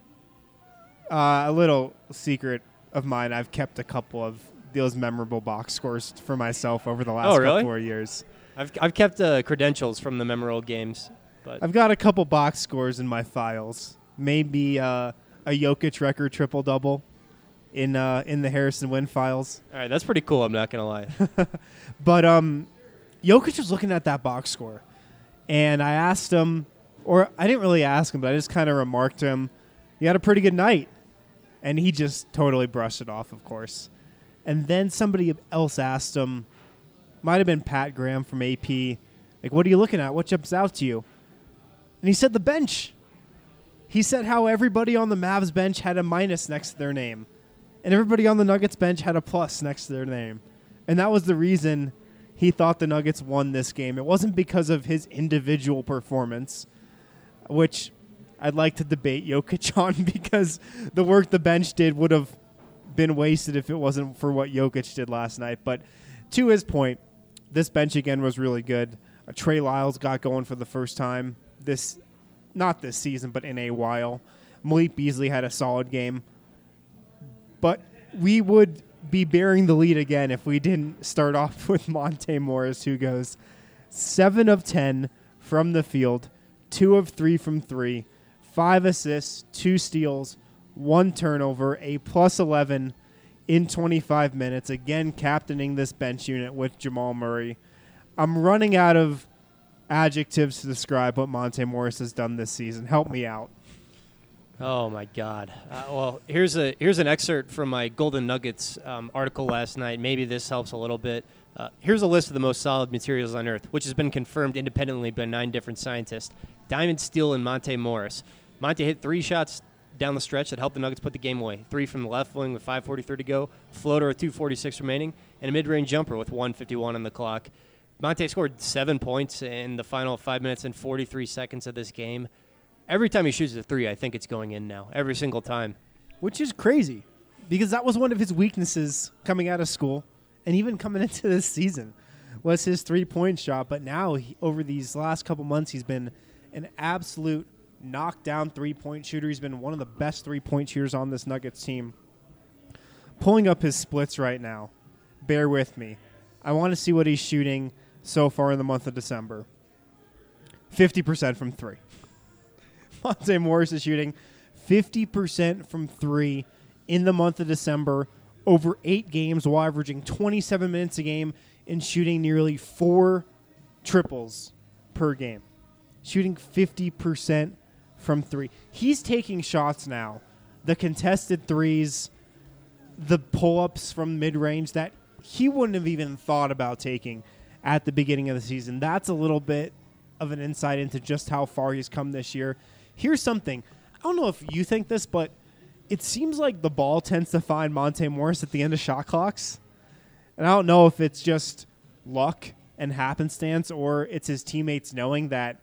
Uh, a little secret of mine, I've kept a couple of those memorable box scores for myself over the last Oh, really? couple of years. I've I've kept uh, credentials from the memorable games, but I've got a couple box scores in my files. Maybe uh, a Jokic record triple double in uh, in the Harrison Wind files. all right, that's pretty cool. I'm not gonna lie. But um, Jokic was looking at that box score, and I asked him, or I didn't really ask him, but I just kind of remarked to him, "You had a pretty good night," and he just totally brushed it off, of course. And then somebody else asked him, might have been Pat Graham from A P, like, "What are you looking at? What jumps out to you?" And he said the bench. He said how everybody on the Mavs bench had a minus next to their name, and everybody on the Nuggets bench had a plus next to their name. And that was the reason he thought the Nuggets won this game. It wasn't because of his individual performance, which I'd like to debate Jokic on, because the work the bench did would have been wasted if it wasn't for what Jokic did last night. But to his point, this bench again was really good. Uh, Trey Lyles got going for the first time this, not this season, but in a while. Malik Beasley had a solid game. But we would be bearing the lead again if we didn't start off with Monte Morris, who goes seven of ten from the field, two of three from three, five assists, two steals, one turnover, a plus eleven in twenty-five minutes, again captaining this bench unit with Jamal Murray. I'm running out of adjectives to describe what Monte Morris has done this season. Help me out. Oh my God! Uh, well, here's a here's an excerpt from my Golden Nuggets um, article last night. Maybe this helps a little bit. Uh, here's a list of the most solid materials on Earth, which has been confirmed independently by nine different scientists. Diamond, Steel, and Monte Morris. Monte hit three shots down the stretch that helped the Nuggets put the game away. Three from the left wing with five forty-three to go, floater with two forty-six remaining, and a mid-range jumper with one fifty-one on the clock. Monte scored seven points in the final five minutes and forty-three seconds of this game. Every time he shoots a three, I think it's going in now. Every single time. Which is crazy, because that was one of his weaknesses coming out of school, and even coming into this season, was his three-point shot. But now, he, over these last couple months, he's been an absolute knockdown three-point shooter. He's been one of the best three-point shooters on this Nuggets team. Pulling up his splits right now. Bear with me. I want to see what he's shooting so far in the month of December. fifty percent from three. Monte Morris is shooting fifty percent from three in the month of December, over eight games, while averaging twenty-seven minutes a game and shooting nearly four triples per game. Shooting fifty percent from three. He's taking shots now, the contested threes, the pull-ups from mid-range that he wouldn't have even thought about taking at the beginning of the season. That's a little bit of an insight into just how far he's come this year. Here's something. I don't know if you think this, but it seems like the ball tends to find Monte Morris at the end of shot clocks. And I don't know if it's just luck and happenstance, or it's his teammates knowing that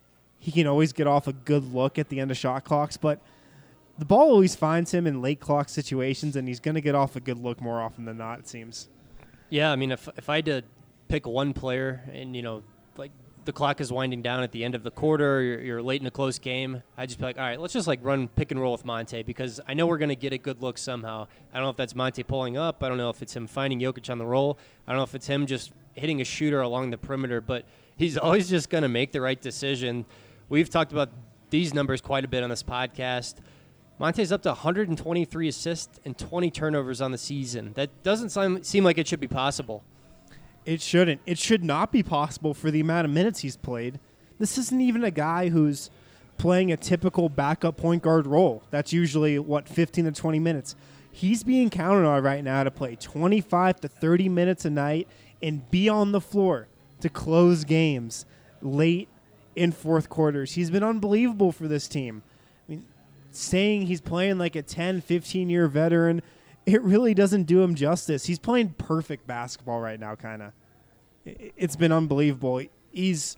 he can always get off a good look at the end of shot clocks. But the ball always finds him in late clock situations, and he's going to get off a good look more often than not, it seems. Yeah, I mean, if if I had to pick one player, and, you know, like, the clock is winding down at the end of the quarter, you're, you're late in a close game, I'd just be like, all right, let's just like run pick and roll with Monte, because I know we're going to get a good look somehow. I don't know if that's Monte pulling up. I don't know if it's him finding Jokic on the roll. I don't know if it's him just hitting a shooter along the perimeter, but he's always just going to make the right decision. We've talked about these numbers quite a bit on this podcast. Monte's up to one hundred twenty-three assists and twenty turnovers on the season. That doesn't seem, seem like it should be possible. It shouldn't. It should not be possible for the amount of minutes he's played. This isn't even a guy who's playing a typical backup point guard role. That's usually, what, fifteen to twenty minutes. He's being counted on right now to play twenty-five to thirty minutes a night and be on the floor to close games late in fourth quarters. He's been unbelievable for this team. I mean, saying he's playing like a ten, fifteen-year veteran, it really doesn't do him justice. He's playing perfect basketball right now, kind of. It's been unbelievable. He's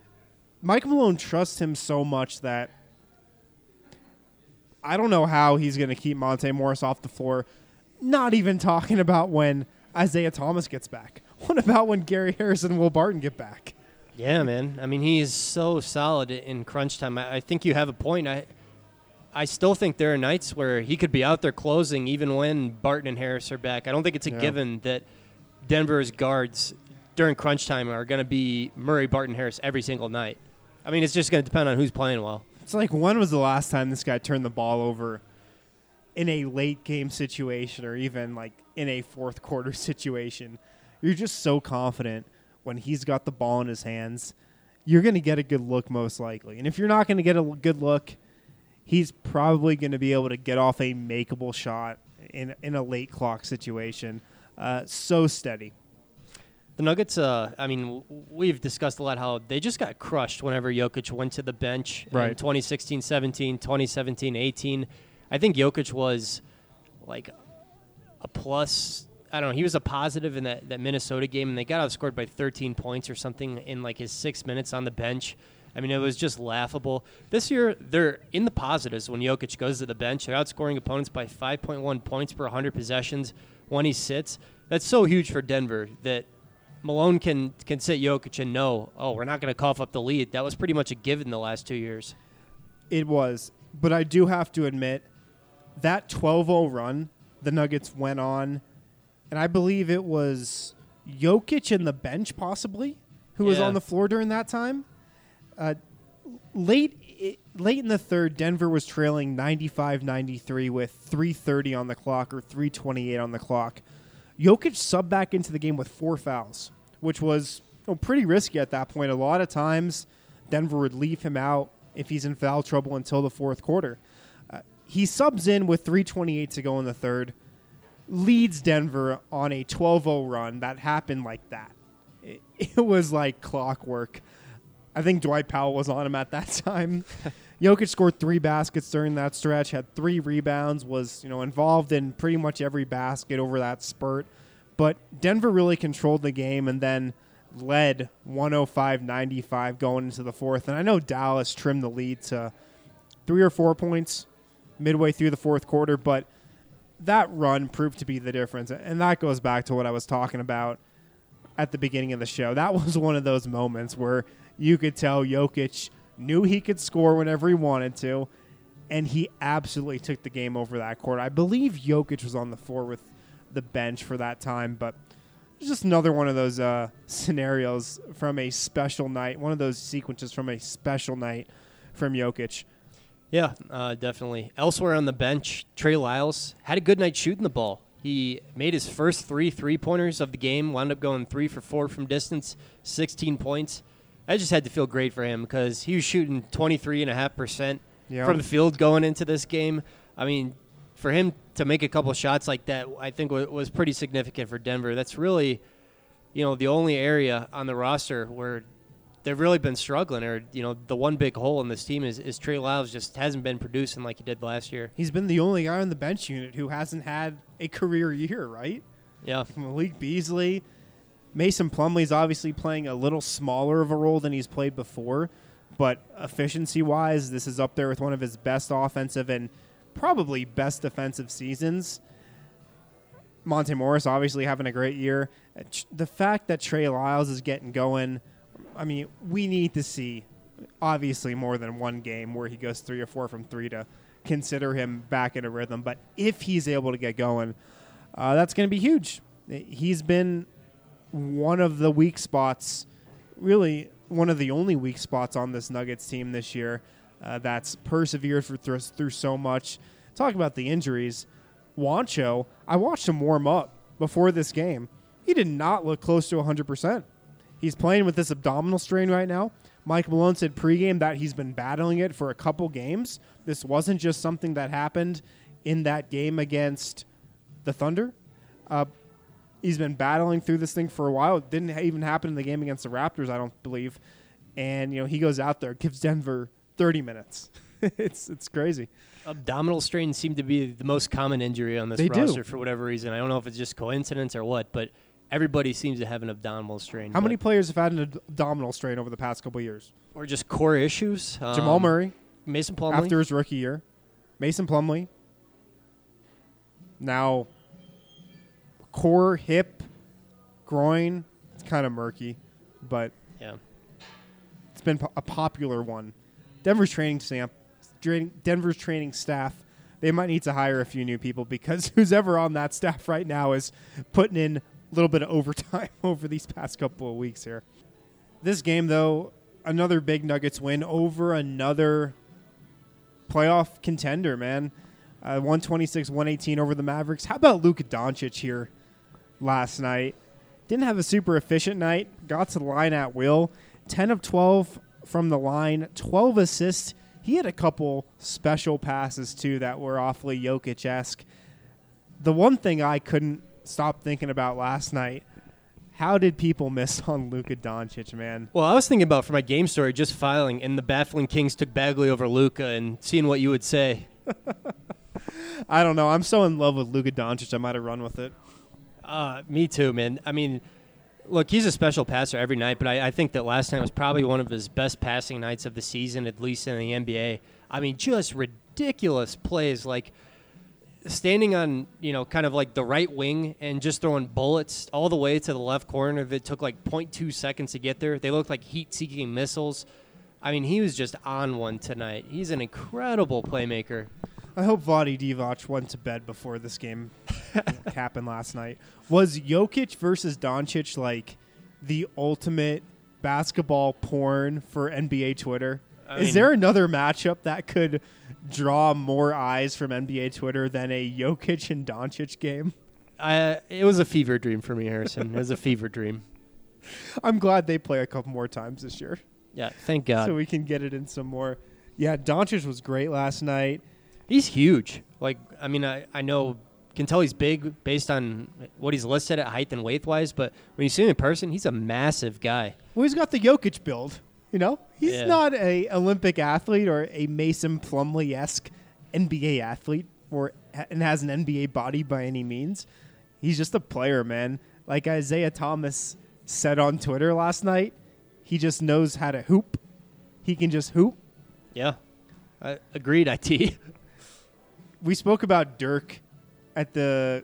Mike Malone trusts him so much that I don't know how he's going to keep Monte Morris off the floor, not even talking about when Isaiah Thomas gets back. What about when Gary Harris and Will Barton get back? Yeah, man. I mean, he is so solid in crunch time. I, I think you have a point. I I still think there are nights where he could be out there closing even when Barton and Harris are back. I don't think it's a Yeah. given that Denver's guards during crunch time are going to be Murray, Barton, Harris every single night. I mean, it's just going to depend on who's playing well. It's like, when was the last time this guy turned the ball over in a late game situation or even like in a fourth quarter situation? You're just so confident when he's got the ball in his hands. You're going to get a good look most likely. And if you're not going to get a good look, he's probably going to be able to get off a makeable shot in in a late clock situation. Uh, so steady. The Nuggets, uh, I mean, w- we've discussed a lot how they just got crushed whenever Jokic went to the bench in Right. twenty sixteen seventeen, twenty seventeen eighteen. I think Jokic was like a plus. I don't know. He was a positive in that, that Minnesota game, and they got outscored by thirteen points or something in like his six minutes on the bench. I mean, it was just laughable. This year, they're in the positives when Jokic goes to the bench. They're outscoring opponents by five point one points per one hundred possessions when he sits. That's so huge for Denver that Malone can can sit Jokic and know, oh, we're not going to cough up the lead. That was pretty much a given the last two years. It was. But I do have to admit, that twelve oh run the Nuggets went on, and I believe it was Jokic and the bench possibly who was Yeah. on the floor during that time. Uh, late i- late in the third, Denver was trailing ninety-five ninety-three with three thirty on the clock or three twenty-eight on the clock. Jokic subbed back into the game with four fouls, which was you know, pretty risky at that point. A lot of times, Denver would leave him out if he's in foul trouble until the fourth quarter. Uh, he subs in with three twenty-eight to go in the third, leads Denver on a twelve oh run that happened like that. It, it was like clockwork. I think Dwight Powell was on him at that time. Jokic scored three baskets during that stretch, had three rebounds, was you know involved in pretty much every basket over that spurt. But Denver really controlled the game and then led one oh five ninety-five going into the fourth. And I know Dallas trimmed the lead to three or four points midway through the fourth quarter, but that run proved to be the difference. And that goes back to what I was talking about at the beginning of the show. That was one of those moments where you could tell Jokic knew he could score whenever he wanted to, and he absolutely took the game over that court. I believe Jokic was on the floor with the bench for that time, but it's just another one of those uh, scenarios from a special night, one of those sequences from a special night from Jokic. Yeah, uh, definitely. Elsewhere on the bench, Trey Lyles had a good night shooting the ball. He made his first three three-pointers of the game, wound up going three for four from distance, sixteen points. I just had to feel great for him because he was shooting twenty-three point five percent Yeah. from the field going into this game. I mean, for him to make a couple shots like that, I think w- was pretty significant for Denver. That's really, you know, the only area on the roster where they've really been struggling, or, you know, the one big hole in this team is, is Trey Lyles just hasn't been producing like he did last year. He's been the only guy on the bench unit who hasn't had a career year, right? Yeah. Malik Beasley. Mason Plumlee's obviously playing a little smaller of a role than he's played before, but efficiency-wise, this is up there with one of his best offensive and probably best defensive seasons. Monte Morris obviously having a great year. Uh, tr- The fact that Trey Lyles is getting going, I mean, we need to see obviously more than one game where he goes three or four from three to consider him back in a rhythm. But if he's able to get going, uh, that's going to be huge. He's been one of the weak spots, really one of the only weak spots on this Nuggets team this year uh, that's persevered for through, through so much. Talk about the injuries. Juancho, I watched him warm up before this game. He did not look close to one hundred percent. He's playing with this abdominal strain right now. Mike Malone said pregame that he's been battling it for a couple games. This wasn't just something that happened in that game against the Thunder. Uh, he's been battling through this thing for a while. It didn't even happen in the game against the Raptors, I don't believe. And, you know, he goes out there, gives Denver thirty minutes. it's it's crazy. Abdominal strains seem to be the most common injury on this They do. roster for whatever reason. I don't know if it's just coincidence or what, but everybody seems to have an abdominal strain. How but- many players have had an ad- abdominal strain over the past couple of years? Or just core issues. Jamal Um, Murray, Mason Plumlee. after his rookie year. Mason Plumlee. Now, core, hip, groin. It's kind of murky, but Yeah. it's been po- a popular one. Denver's training staff, Denver's training staff, they might need to hire a few new people because who's ever on that staff right now is putting in a little bit of overtime over these past couple of weeks here. This game, though, another big Nuggets win over another playoff contender, man. Uh, one twenty-six one eighteen over the Mavericks. How about Luka Doncic here last night? Didn't have a super efficient night. Got to the line at will. ten of twelve from the line. twelve assists. He had a couple special passes, too, that were awfully Jokic-esque. The one thing I couldn't stop thinking about last night, how did people miss on Luka Doncic, man? Well, I was thinking about, for my game story, just filing, and the Baffling Kings took Bagley over Luka and seeing what you would say. I don't know. I'm so in love with Luka Doncic, I might have run with it. Uh, me too, man. I mean, look, he's a special passer every night, but I, I think that last night was probably one of his best passing nights of the season, at least in the N B A. I mean, just ridiculous plays, like standing on, you know, kind of like the right wing and just throwing bullets all the way to the left corner that took like zero point two seconds to get there. They looked like heat-seeking missiles. I mean, he was just on one tonight. He's an incredible playmaker. I hope Vlade Divac went to bed before this game happened last night. Was Jokic versus Doncic like the ultimate basketball porn for N B A Twitter? I Is mean, there another matchup that could draw more eyes from N B A Twitter than a Jokic and Doncic game? I, it was a fever dream for me, Harrison. It was a fever dream. I'm glad they play a couple more times this year. Yeah, thank God. So we can get it in some more. Yeah, Doncic was great last night. He's huge. Like, I mean, I, I know, can tell he's big based on what he's listed at height and weight-wise, but when you see him in person, he's a massive guy. Well, he's got the Jokic build, you know? He's yeah. not a Olympic athlete or a Mason Plumlee-esque N B A athlete or and has an N B A body by any means. He's just a player, man. Like Isaiah Thomas said on Twitter last night, he just knows how to hoop. He can just hoop. Yeah. I agreed, I T. We spoke about Dirk at the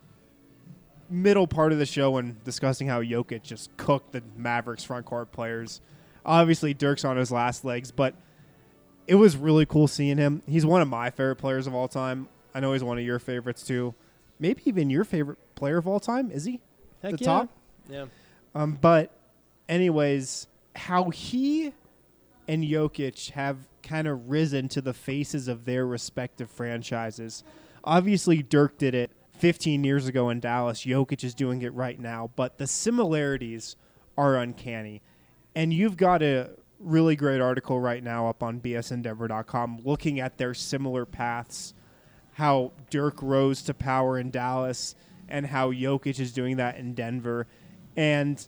middle part of the show when discussing how Jokic just cooked the Mavericks front court players. Obviously, Dirk's on his last legs, but it was really cool seeing him. He's one of my favorite players of all time. I know he's one of your favorites, too. Maybe even your favorite player of all time, is he? Heck the yeah. top? Yeah. Um, but anyways, how he and Jokic have kind of risen to the faces of their respective franchises. Obviously, Dirk did it fifteen years ago in Dallas. Jokic is doing it right now, but the similarities are uncanny. And you've got a really great article right now up on B S N Denver dot com looking at their similar paths, how Dirk rose to power in Dallas and how Jokic is doing that in Denver. And,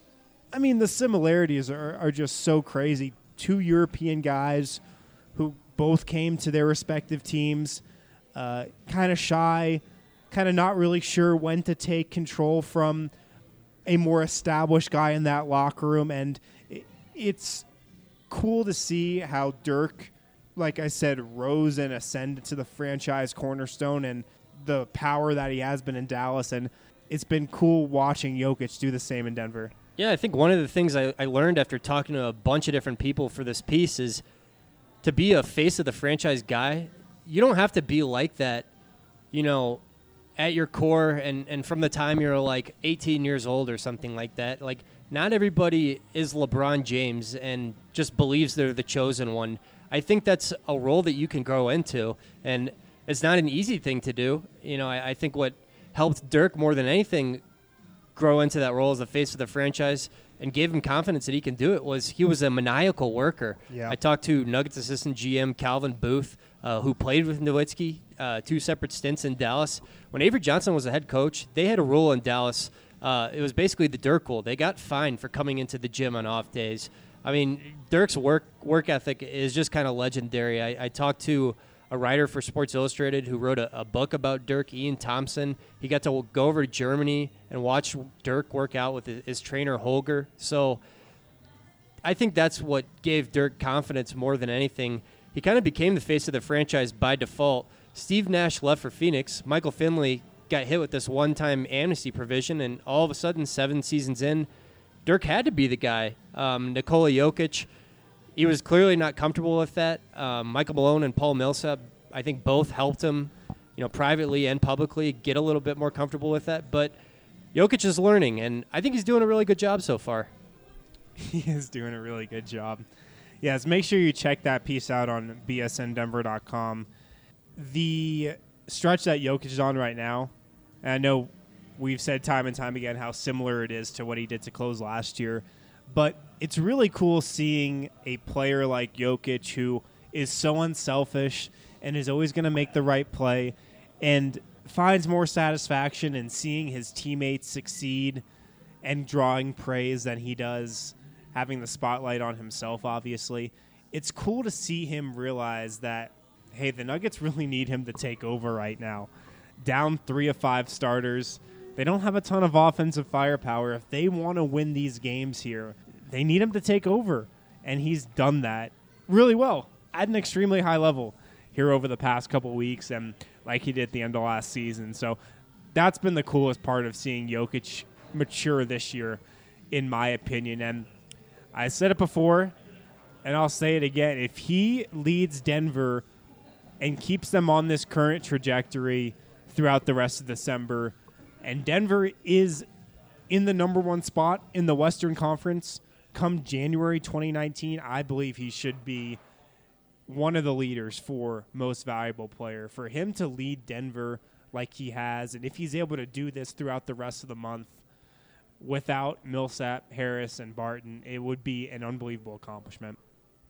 I mean, the similarities are, are just so crazy. Two European guys who both came to their respective teams, uh, kind of shy, kind of not really sure when to take control from a more established guy in that locker room. And it, it's cool to see how Dirk, like I said, rose and ascended to the franchise cornerstone and the power that he has been in Dallas. And it's been cool watching Jokic do the same in Denver. Yeah, I think one of the things I, I learned after talking to a bunch of different people for this piece is to be a face of the franchise guy, you don't have to be like that, you know, at your core and, and from the time you're like eighteen years old or something like that. Like, not everybody is LeBron James and just believes they're the chosen one. I think that's a role that you can grow into, and it's not an easy thing to do. You know, I, I think what helped Dirk more than anything grow into that role as the face of the franchise and gave him confidence that he can do it was he was a maniacal worker. Yeah. I talked to Nuggets assistant G M Calvin Booth, uh, who played with Nowitzki, uh, two separate stints in Dallas. When Avery Johnson was the head coach, they had a rule in Dallas. Uh, it was basically the Dirk rule. They got fined for coming into the gym on off days. I mean, Dirk's work work ethic is just kind of legendary. I, I talked to a writer for Sports Illustrated who wrote a, a book about Dirk, Ian Thompson. He got to go over to Germany and watch Dirk work out with his, his trainer, Holger. So I think that's what gave Dirk confidence more than anything. He kind of became the face of the franchise by default. Steve Nash left for Phoenix. Michael Finley got hit with this one-time amnesty provision, and all of a sudden, seven seasons in, Dirk had to be the guy. Um, Nikola Jokic, he was clearly not comfortable with that. Um, Michael Malone and Paul Millsap, I think both helped him, you know, privately and publicly get a little bit more comfortable with that. But Jokic is learning, and I think he's doing a really good job so far. He is doing a really good job. Yes, make sure you check that piece out on B S N Denver dot com. The stretch that Jokic is on right now, and I know we've said time and time again how similar it is to what he did to close last year, but it's really cool seeing a player like Jokic who is so unselfish and is always going to make the right play and finds more satisfaction in seeing his teammates succeed and drawing praise than he does having the spotlight on himself, obviously. It's cool to see him realize that, hey, the Nuggets really need him to take over right now. Down three of five starters. They don't have a ton of offensive firepower. If they want to win these games here, they need him to take over. And he's done that really well at an extremely high level here over the past couple weeks and like he did at the end of last season. So that's been the coolest part of seeing Jokic mature this year, in my opinion. And I said it before, and I'll say it again. If he leads Denver and keeps them on this current trajectory throughout the rest of December, and Denver is in the number one spot in the Western Conference come January twenty nineteen, I believe he should be one of the leaders for most valuable player. For him to lead Denver like he has, and if he's able to do this throughout the rest of the month without Millsap, Harris, and Barton, it would be an unbelievable accomplishment.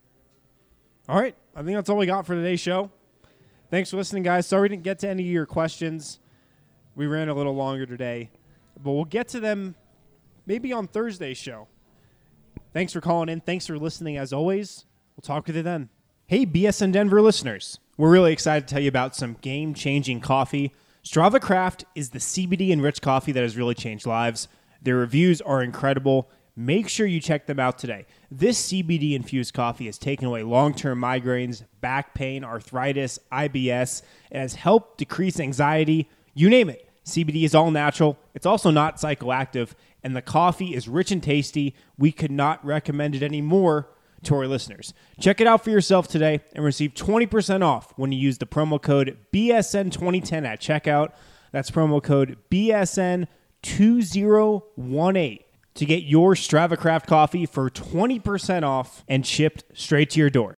All right, I think that's all we got for today's show. Thanks for listening, guys. Sorry we didn't get to any of your questions. We ran a little longer today, but we'll get to them maybe on Thursday's show. Thanks for calling in. Thanks for listening, as always. We'll talk with you then. Hey, B S N Denver listeners. We're really excited to tell you about some game-changing coffee. Strava Craft is the C B D-enriched coffee that has really changed lives. Their reviews are incredible. Make sure you check them out today. This C B D-infused coffee has taken away long-term migraines, back pain, arthritis, I B S. It has helped decrease anxiety. You name it. C B D is all natural. It's also not psychoactive. And the coffee is rich and tasty. We could not recommend it any more to our listeners. Check it out for yourself today and receive twenty percent off when you use the promo code B S N twenty ten at checkout. That's promo code B S N two zero one eight to get your StravaCraft coffee for twenty percent off and shipped straight to your door.